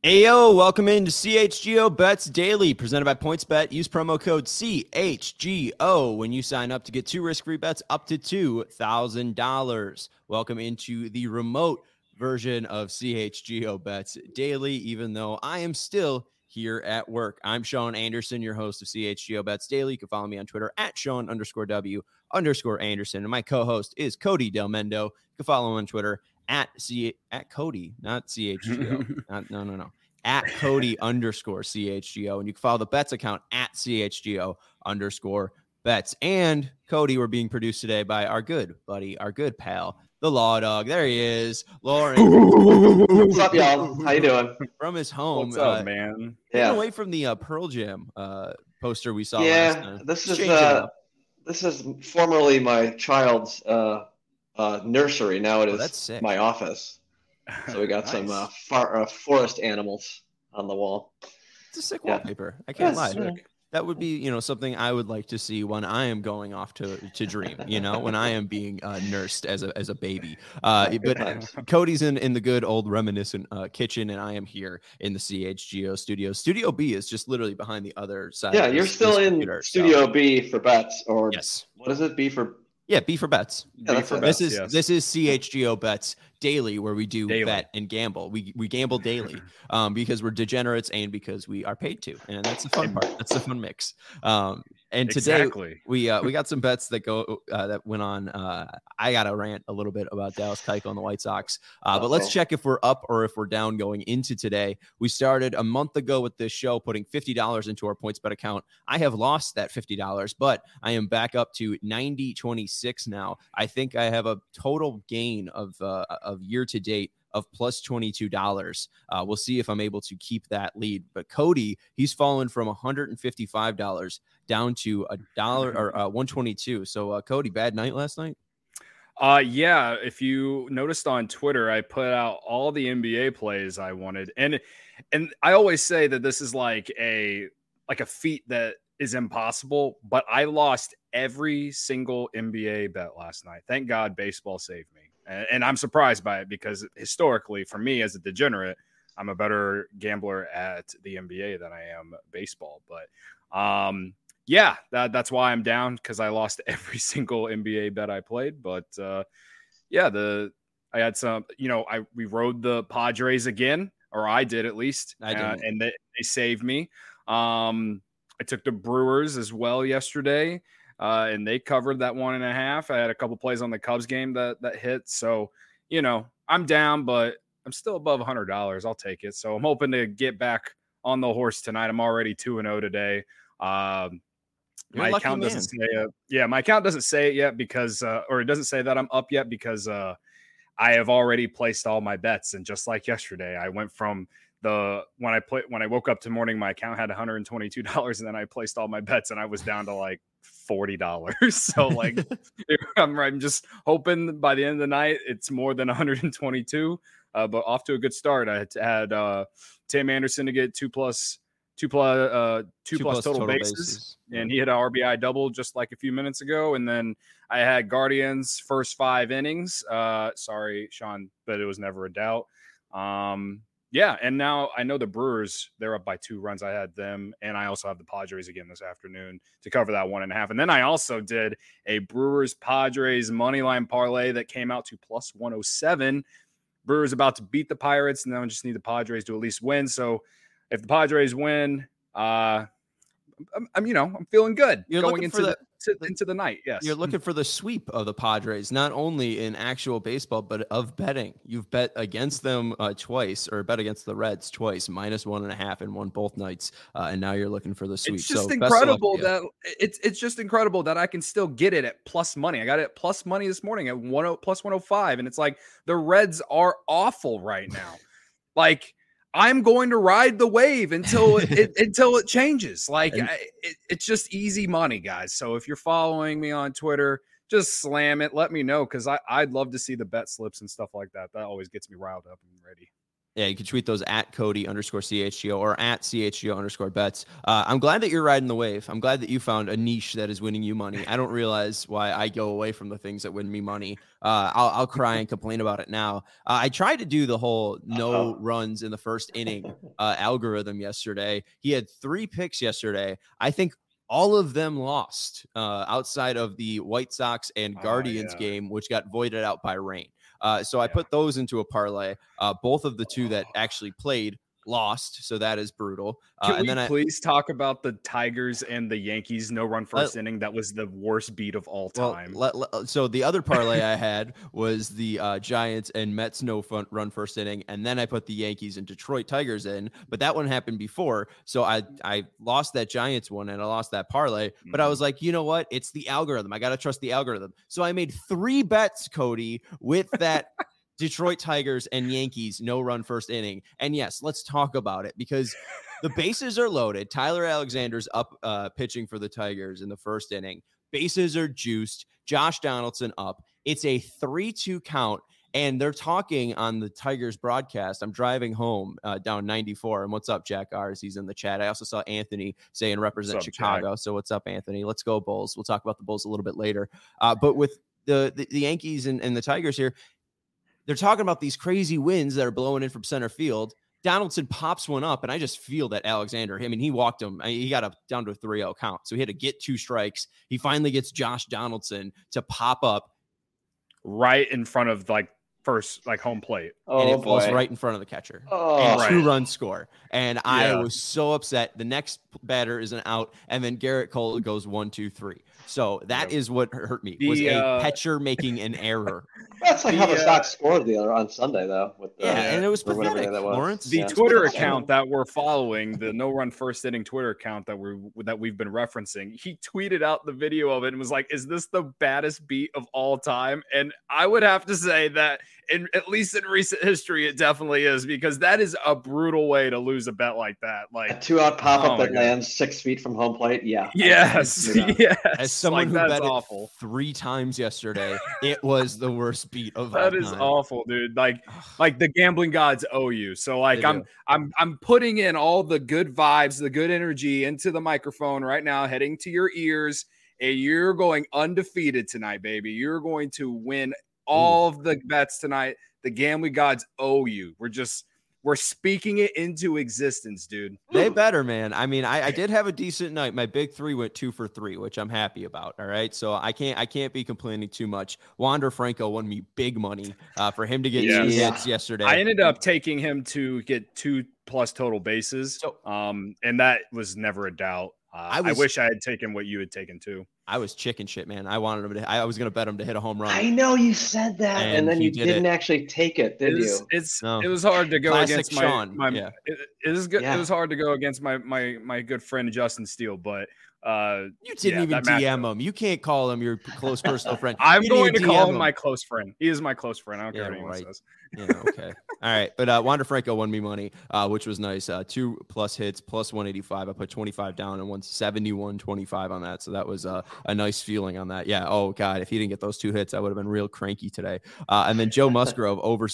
Hey, yo, welcome into CHGO Bets Daily, presented by PointsBet. Use promo code CHGO when you sign up to get 2 risk-free bets up to $2,000. Welcome into the remote version of CHGO Bets Daily, even though I am still here at work. I'm Sean Anderson, your host of CHGO Bets Daily. You can follow me on Twitter at Sean_W_Anderson. And my co-host is Cody Del Mendo. You can follow him on Twitter at Cody, not CHGO. No. At Cody_CHGO. And you can follow the bets account at CHGO_bets. And Cody, we're being produced today by our good buddy, our good pal, the Law Dog. There he is, Lauren. What's up, y'all? How you doing? From his home. What's up, man? Getting away from the Pearl Jam poster we saw yeah, last time. This is formerly my child's nursery. Now it is my office. So we got nice. some forest animals on the wall. It's a sick wallpaper. I can't lie. Sick. That would be, something I would like to see when I am going off to dream, when I am being nursed as a baby. But Cody's in the good old reminiscent kitchen, and I am here in the CHGO studio. Studio B is just literally behind the other side. Yeah, you're still in Studio B for bets, or yes. What is it? B for? Yeah, B for bets. Yeah, this is CHGO Bets Daily, where we do bet and gamble. We gamble daily because we're degenerates and because we are paid to, and that's the fun part. That's the fun mix. And today we got some bets that went on. I got to rant a little bit about Dallas Keuchel and the White Sox, but let's check if we're up or if we're down going into today. We started a month ago with this show, putting $50 into our PointsBet account. I have lost that $50, but I am back up to 90-26 now. I think I have a total gain of year to date of plus $22. We'll see if I'm able to keep that lead. But Cody, he's fallen from $155 down to $1 or $122. So Cody, bad night last night? Yeah. If you noticed on Twitter, I put out all the NBA plays I wanted, and I always say that this is like a feat that is impossible, but I lost every single NBA bet last night. Thank God baseball saved me. And I'm surprised by it because historically, for me as a degenerate, I'm a better gambler at the NBA than I am baseball. But that's why I'm down, because I lost every single NBA bet I played. But I had some, we rode the Padres again, or I did at least, and they saved me. I took the Brewers as well yesterday. And they covered that 1.5. I had a couple plays on the Cubs game that hit. So, I'm down, but I'm still above $100. I'll take it. So I'm hoping to get back on the horse tonight. I'm already 2-0 today. My account doesn't say it. Yeah, my account doesn't say it yet because, or it doesn't say that I'm up yet because I have already placed all my bets. And just like yesterday, I went from when I woke up to morning, my account had $122, and then I placed all my bets, and I was down to like $40. So like, I'm just hoping by the end of the night it's more than 122. But off to a good start. I had Tim Anderson to get two plus total bases, and he hit an RBI double just like a few minutes ago. And then I had Guardians first 5 innings. Sorry, Sean, but it was never a doubt. Yeah, and now I know the Brewers, they're up by 2 runs. I had them, and I also have the Padres again this afternoon to cover that 1.5. And then I also did a Brewers-Padres moneyline parlay that came out to plus 107. Brewers about to beat the Pirates, and then I just need the Padres to at least win. So if the Padres win, I'm feeling good going into the night. Yes, you're looking for the sweep of the Padres, not only in actual baseball but of betting. You've bet against them twice, or bet against the Reds twice, -1.5, and won both nights. And now you're looking for the sweep. It's just incredible that it's just incredible that I can still get it at plus money. I got it at plus money this morning at plus 105, and it's like the Reds are awful right now. Like, I'm going to ride the wave until it changes. Like, it's just easy money, guys. So if you're following me on Twitter, just slam it. Let me know, because I'd love to see the bet slips and stuff like that. That always gets me riled up and ready. Yeah, you can tweet those at Cody_CHGO or at CHGO_bets. I'm glad that you're riding the wave. I'm glad that you found a niche that is winning you money. I don't realize why I go away from the things that win me money. I'll cry and complain about it now. I tried to do the whole no runs in the first inning algorithm yesterday. He had 3 picks yesterday. I think all of them lost outside of the White Sox and Guardians game, which got voided out by rain. So I put those into a parlay. Both of the 2 that actually played lost, so that is brutal. Can we please talk about the Tigers and the Yankees no-run first inning? That was the worst beat of all time. So the other parlay I had was the Giants and Mets no-run first inning, and then I put the Yankees and Detroit Tigers in, but that one happened before, so I lost that Giants one and I lost that parlay, but I was like, you know what? It's the algorithm. I got to trust the algorithm. So I made 3 bets, Cody, with that Detroit Tigers and Yankees no-run first inning. And yes, let's talk about it because the bases are loaded. Tyler Alexander's up pitching for the Tigers in the first inning. Bases are juiced. Josh Donaldson up. It's a 3-2 count. And they're talking on the Tigers broadcast. I'm driving home down 94. And what's up, Jack Ars? He's in the chat. I also saw Anthony saying represent Chicago. Jack? So what's up, Anthony? Let's go Bulls. We'll talk about the Bulls a little bit later. But with the Yankees and the Tigers here, they're talking about these crazy winds that are blowing in from center field. Donaldson pops one up, and I just feel that Alexander, he walked him. He got down to a 3-0 count. So he had to get 2 strikes. He finally gets Josh Donaldson to pop up right in front of first home plate. And it falls right in front of the catcher. And 2-run score. And I was so upset. The next batter is an out, and then Garrett Cole goes 1-2-3. So that is what hurt me, was a catcher making an error. That's like how the Sox scored on Sunday, though. And it was pathetic, Lawrence. The Twitter account that we're following, the no-run first inning Twitter account that we've been referencing, he tweeted out the video of it and was like, is this the baddest beat of all time? And I would have to say that, at least in recent history, it definitely is, because that is a brutal way to lose a bet like that. Like a 2-out pop-up that lands 6 feet from home plate. Yeah. Yes. As someone who bet it 3 times yesterday, it was the worst beat of all time. That is awful, dude. Like the gambling gods owe you. So I'm putting in all the good vibes, the good energy into the microphone right now, heading to your ears, and you're going undefeated tonight, baby. You're going to win all of the bets tonight. The gambling gods owe you. We're speaking it into existence, dude. They better, man. I mean, I did have a decent night. My big 3 went 2 for 3, which I'm happy about. All right. So I can't be complaining too much. Wander Franco won me big money for him to get 2 hits yesterday. I ended up taking him to get 2+ total bases. And that was never a doubt. I wish I had taken what you had taken too. I was chicken shit, man. I wanted him to. I was going to bet him to hit a home run. I know you said that, and then you didn't actually take it, did you? It was hard to go against Sean. It is good. It was hard to go against my good friend Justin Steele, but you didn't even DM him. You can't call him your close personal friend. I'm going to call him my close friend. He is my close friend. I don't care what anyone says. Yeah, okay. All right. But Wander Franco won me money, which was nice. 2+ hits, plus 185. I put 25 down and won 71.25 on that. So that was a nice feeling on that. Yeah. Oh, God. If he didn't get those 2 hits, I would have been real cranky today. And then Joe Musgrove over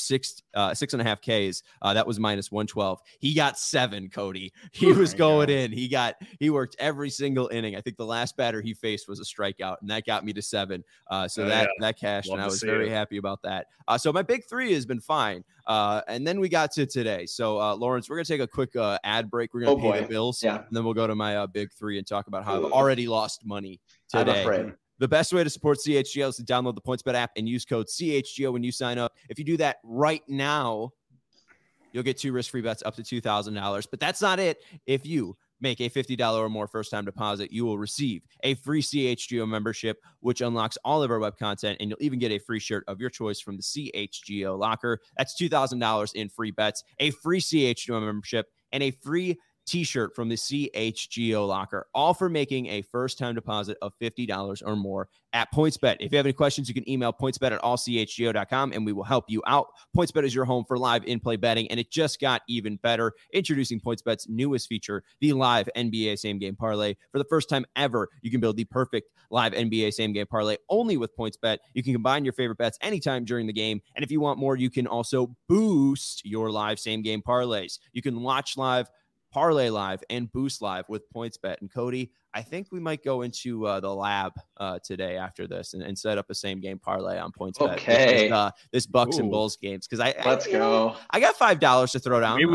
6.5 Ks. That was minus 112. He got 7, Cody. He was going in. He worked every single inning. I think the last batter he faced was a strikeout, and that got me to 7. So that cashed, and I was very happy about that. So my big 3 has been fine. And then we got to today. So Lawrence, we're gonna take a quick ad break. We're gonna pay the bills, and then we'll go to my big 3 and talk about how I've already lost money today. I'm afraid. The best way to support CHGO is to download the PointsBet app and use code CHGO when you sign up. If you do that right now, you'll get 2 risk-free bets up to $2,000. But that's not it. If you make a $50 or more first-time deposit, you will receive a free CHGO membership, which unlocks all of our web content, and you'll even get a free shirt of your choice from the CHGO locker. That's $2,000 in free bets, a free CHGO membership, and a free t-shirt from the CHGO locker, all for making a first-time deposit of $50 or more at PointsBet. If you have any questions, you can email pointsbet@allchgo.com and we will help you out. PointsBet is your home for live in-play betting, and it just got even better. Introducing PointsBet's newest feature, the live NBA same-game parlay. For the first time ever, you can build the perfect live NBA same-game parlay only with PointsBet. You can combine your favorite bets anytime during the game, and if you want more, you can also boost your live same-game parlays. You can watch live, parlay live, and boost live with PointsBet. And Cody, I think we might go into the lab today after this and set up a same game parlay on PointsBet. Okay. This Bucks and Bulls games, because let's go. I got $5 to throw down.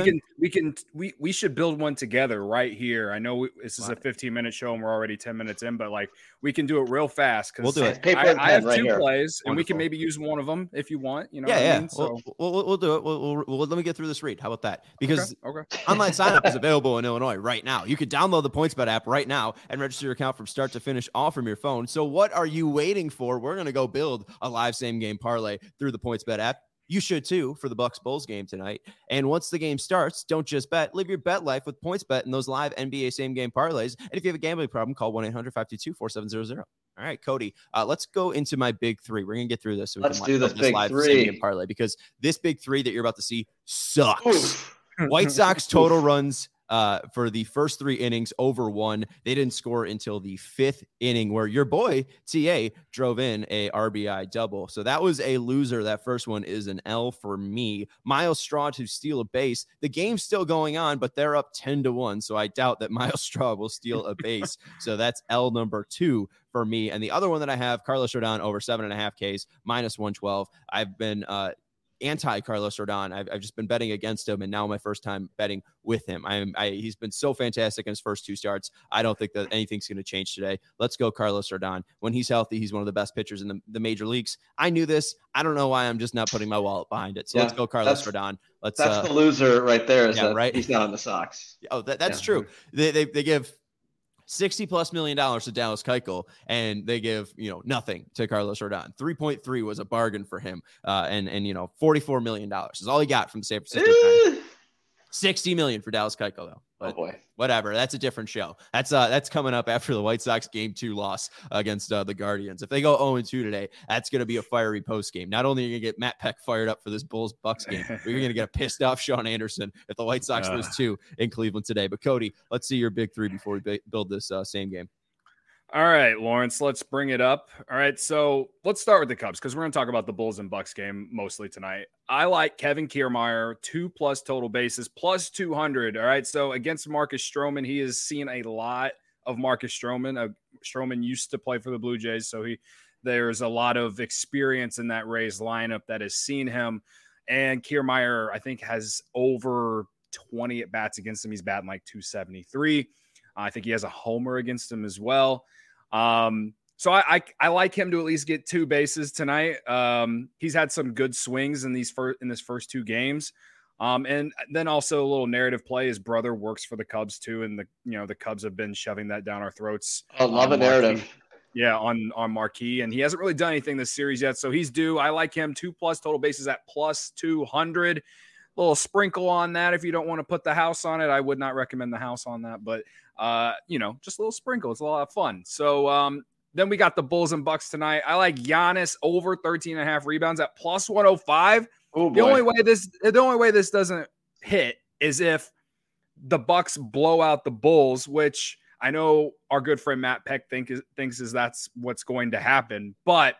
We should build one together right here. I know this is a 15-minute show and we're already 10 minutes in, but like we can do it real fast because we'll do it. I have two plays and we can maybe use one of them if you want. You know, yeah. I mean? So we'll do it. We'll let me get through this read. How about that? Because online sign up is available in Illinois right now. You can download the PointsBet app right now and register your account from start to finish, all from your phone. So what are you waiting for? We're going to go build a live same game parlay through the PointsBet app. You should too for the Bucks Bulls game tonight. And once the game starts, don't just bet. Live your bet life with PointsBet and those live NBA same game parlays. And if you have a gambling problem, call 1-800-522-4700. All right, Cody, let's go into my big three. We're going to get through this. So let's do this big live three. Same game parlay, because this big three that you're about to see sucks. White Sox total runs for the first 3 innings over 1. They didn't score until the 5th inning, where your boy TA drove in a RBI double. So that was a loser. That first one is an L for me. Miles Straw to steal a base. The game's still going on, but they're up 10-1. So I doubt that Miles Straw will steal a base. So that's L number 2 for me. And the other one that I have, Carlos Rodon over 7.5 Ks, -112. I've been anti Carlos Rodon. I've just been betting against him, and now my first time betting with him. He's been so fantastic in his first 2 starts. I don't think that anything's going to change today. Let's go Carlos Rodon. When he's healthy, he's one of the best pitchers in the major leagues. I knew this. I don't know why I'm just not putting my wallet behind it. So let's go Carlos Rodon. That's the loser right there. Right? He's not on the Sox. Oh, that's true. They give $60+ million to Dallas Keuchel, and they give nothing to Carlos Rodon. 3.3 was a bargain for him, and $44 million is all he got from the San Francisco Giants. $60 million for Dallas Keuchel though. But whatever, that's a different show. That's coming up after the White Sox Game 2 loss against the Guardians. If they go 0-2 today, that's going to be a fiery post game. Not only are you going to get Matt Peck fired up for this Bulls-Bucks game, but you're going to get a pissed off Sean Anderson if the White Sox lose 2 in Cleveland today. But Cody, let's see your big 3 before we build this same game. All right, Lawrence, let's bring it up. All right, so let's start with the Cubs because we're going to talk about the Bulls and Bucks game mostly tonight. I like Kevin Kiermaier, 2+ total bases, +200. All right, so against Marcus Stroman, he has seen a lot of Marcus Stroman. Stroman used to play for the Blue Jays, so there's a lot of experience in that Rays lineup that has seen him. And Kiermaier, I think, has over 20 at-bats against him. He's batting like .273. I think he has a homer against him as well. So I like him to at least get 2 bases tonight. He's had some good swings in this first 2 games. And then also a little narrative play. His brother works for the Cubs too. And the Cubs have been shoving that down our throats. I love a narrative. Yeah. On Marquee. And he hasn't really done anything this series yet. So he's due. I like him 2+ total bases at +200. Little sprinkle on that. If you don't want to put the house on it, I would not recommend the house on that, but just a little sprinkle. It's a lot of fun. So, then we got the Bulls and Bucks tonight. I like Giannis over 13.5 rebounds at +105. Oh, the only way this doesn't hit is if the Bucks blow out the Bulls, which I know our good friend Matt Peck thinks that's what's going to happen. But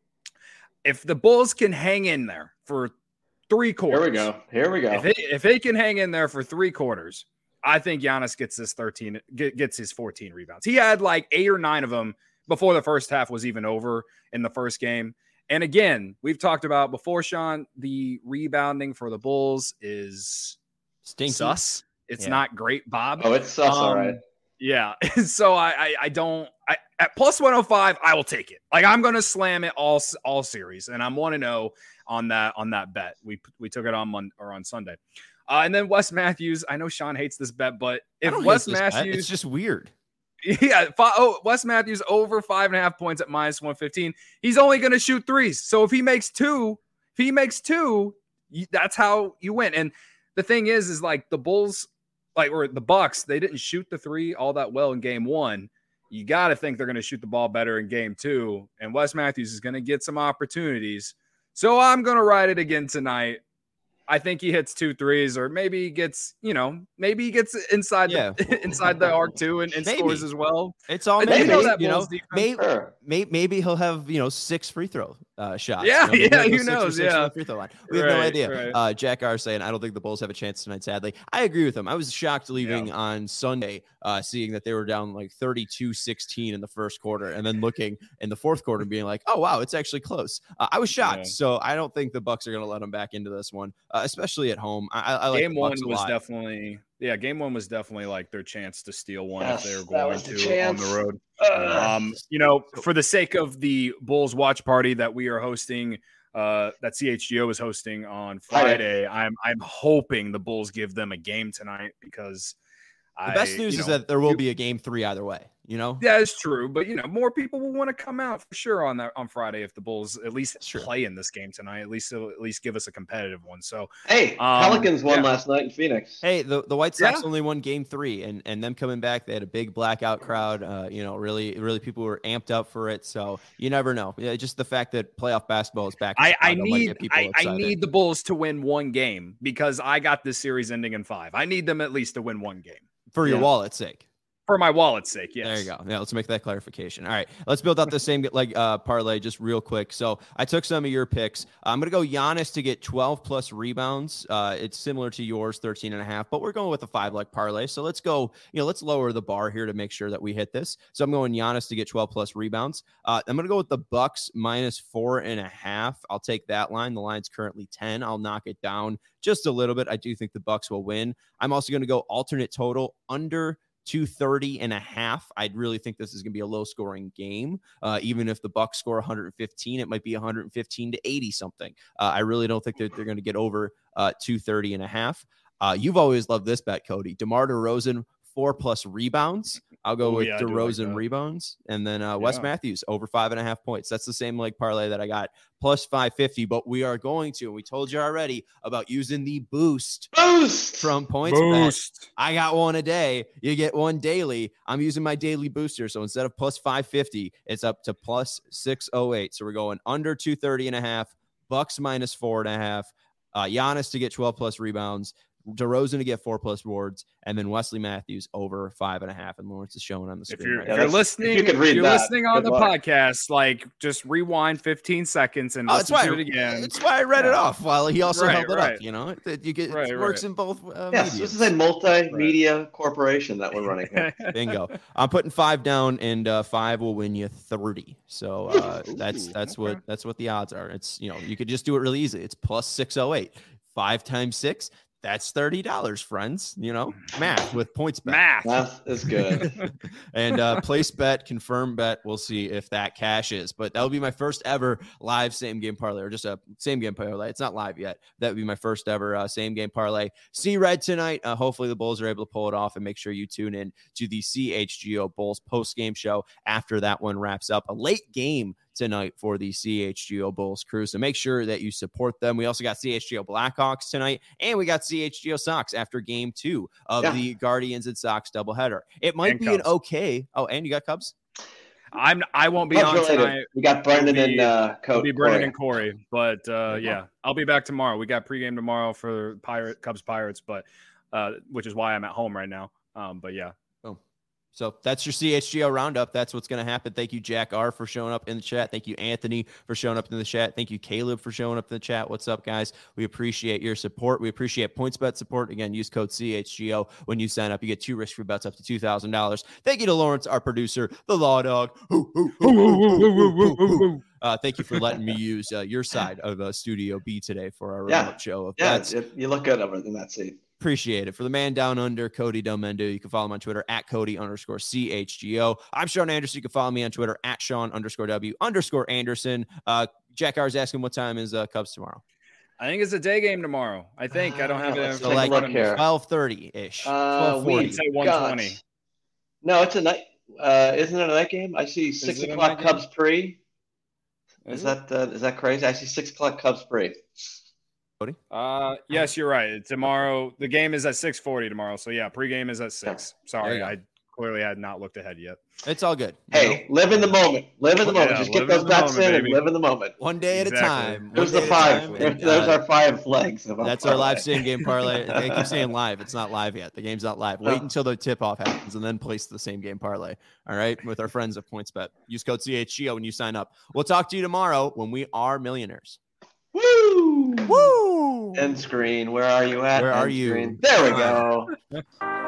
if the Bulls can hang in there for 3 quarters, Here we go. If they can hang in there for 3 quarters, I think Giannis gets his 14 rebounds. He had like 8 or 9 of them before the first half was even over in the first game. And again, we've talked about before, Sean, the rebounding for the Bulls is stinky. Sus. It's not great, Bob. Oh, it's sus, all right. Yeah. So I at +105, I will take it. Like I'm going to slam it all series, and I'm 1-0 on that bet. We took it on Sunday. And then Wes Matthews. I know Sean hates this bet, but if Wes Matthews, it's just weird. Yeah, Wes Matthews over 5.5 points at -115. He's only going to shoot 3s. So if he makes two, that's how you win. And the thing is like the Bulls or the Bucks, they didn't shoot the three all that well in game one. You got to think they're going to shoot the ball better in game two. And Wes Matthews is going to get some opportunities. So I'm going to ride it again tonight. I think he hits 2 threes, or maybe he gets, inside the arc too and scores as well. It's all maybe, maybe he'll have 6 free throw shots. Yeah, who knows? Yeah, free throw line. We have no idea. Right. Jack R saying, I don't think the Bulls have a chance tonight. Sadly, I agree with him. I was shocked leaving on Sunday, seeing that they were down like 32-16 in the first quarter, and then looking in the fourth quarter, being like, oh wow, it's actually close. I was shocked. Yeah. So I don't think the Bucks are going to let them back into this one. Especially at home. I like game one was definitely like their chance to steal one if they were going to on the road. For the sake of the Bulls watch party that we are hosting, that CHGO is hosting on Friday, I'm hoping the Bulls give them a game tonight, because the best news is that there will be a game 3 either way. Yeah, it's true, but more people will want to come out for sure on Friday if the Bulls at least play in this game tonight. At least give us a competitive one. So hey, Pelicans won last night in Phoenix. Hey, the White Sox only won game 3, and them coming back, they had a big blackout crowd. Really people were amped up for it. So you never know. Yeah, just the fact that playoff basketball is back. I need the Bulls to win one game, because I got this series ending in 5. I need them at least to win one game for your wallet's sake. For my wallet's sake, yes. There you go. Yeah, let's make that clarification. All right, let's build out the same parlay just real quick. So I took some of your picks. I'm going to go Giannis to get 12-plus rebounds. It's similar to yours, 13.5, but we're going with a 5-leg parlay. So let's go, let's lower the bar here to make sure that we hit this. So I'm going Giannis to get 12-plus rebounds. I'm going to go with the Bucks minus 4.5. I'll take that line. The line's currently 10. I'll knock it down just a little bit. I do think the Bucks will win. I'm also going to go alternate total under 230.5. I really think this is going to be a low scoring game. Even if the Bucks score 115, it might be 115 to 80 something. I really don't think that they're going to get over 230.5. You've always loved this bet, Cody. DeMar DeRozan 4+ rebounds. I'll go with DeRozan rebounds, and then Wes Matthews over 5.5 points. That's the same leg parlay that I got, plus 550. But we are going to, and we told you already about using the boost from PointsBet. I got one a day. You get one daily. I'm using my daily booster, so instead of plus 550, it's up to plus 608. So we're going under 230.5. Bucks minus 4.5. Giannis to get 12+ rebounds. DeRozan to get 4+ boards, and then Wesley Matthews over 5.5. And Lawrence is showing on the screen. If you're listening on the podcast, just rewind 15 seconds and listen to it again. That's why I read it off while he also held it up. It works in both. Yes, this is a multimedia corporation that we're running here. Bingo. I'm putting 5 down, and 5 will win you 30. So that's what the odds are. It's you could just do it really easy. It's plus 608. 5 times 6. That's $30, friends. Math with PointsBet. Math is good. And place bet, confirm bet. We'll see if that cashes. But that will be my first ever live same game parlay, or just a same game parlay. It's not live yet. That would be my first ever same game parlay. See red tonight. Hopefully the Bulls are able to pull it off, and make sure you tune in to the CHGO Bulls post game show after that one wraps up. A late game tonight for the CHGO Bulls crew. So make sure that you support them. We also got CHGO Blackhawks tonight, and we got CHGO Sox after game 2 of the Guardians and Sox doubleheader. It might be Cubs. And you got Cubs? I won't be on tonight. We got Brendan and It'll be Brendan and Corey. But I'll be back tomorrow. We got pregame tomorrow for Cubs Pirates, but which is why I'm at home right now. But yeah. So that's your CHGO roundup. That's what's going to happen. Thank you, Jack R, for showing up in the chat. Thank you, Anthony, for showing up in the chat. Thank you, Caleb, for showing up in the chat. What's up, guys? We appreciate your support. We appreciate PointsBet support. Again, use code CHGO when you sign up. You get 2 risk-free bets up to $2,000. Thank you to Lawrence, our producer, the Law Dog. Thank you for letting me use your side of Studio B today for our remote show of bets. You look good over in that seat. Appreciate it. For the man down under, Cody Delmendo, you can follow him on Twitter at Cody_CHGO. I'm Sean Anderson. You can follow me on Twitter at Sean_W_Anderson. Jack R is asking what time is Cubs tomorrow. I think it's a day game tomorrow. I think I don't have it. So like 12:30-ish. 12:40. Say 1:20. No, it's a night. Isn't it a night game? I see 6 o'clock Cubs pre. Is that crazy? I see 6 o'clock Cubs pre. Yes, you're right. Tomorrow, the game is at 6:40 tomorrow. So yeah, pregame is at 6. Sorry, I clearly had not looked ahead yet. It's all good. Hey, live in the moment. Live in the moment. Just get those bets in and live in the moment. One day at a time. There's the 5. There's our 5 legs. That's our live same game parlay. I keep saying live. It's not live yet. The game's not live. Wait until the tip off happens and then place the same game parlay. All right, with our friends at PointsBet. Use code CHGO when you sign up. We'll talk to you tomorrow when we are millionaires. Woo! End screen. Where are you at? Where are you? There we go.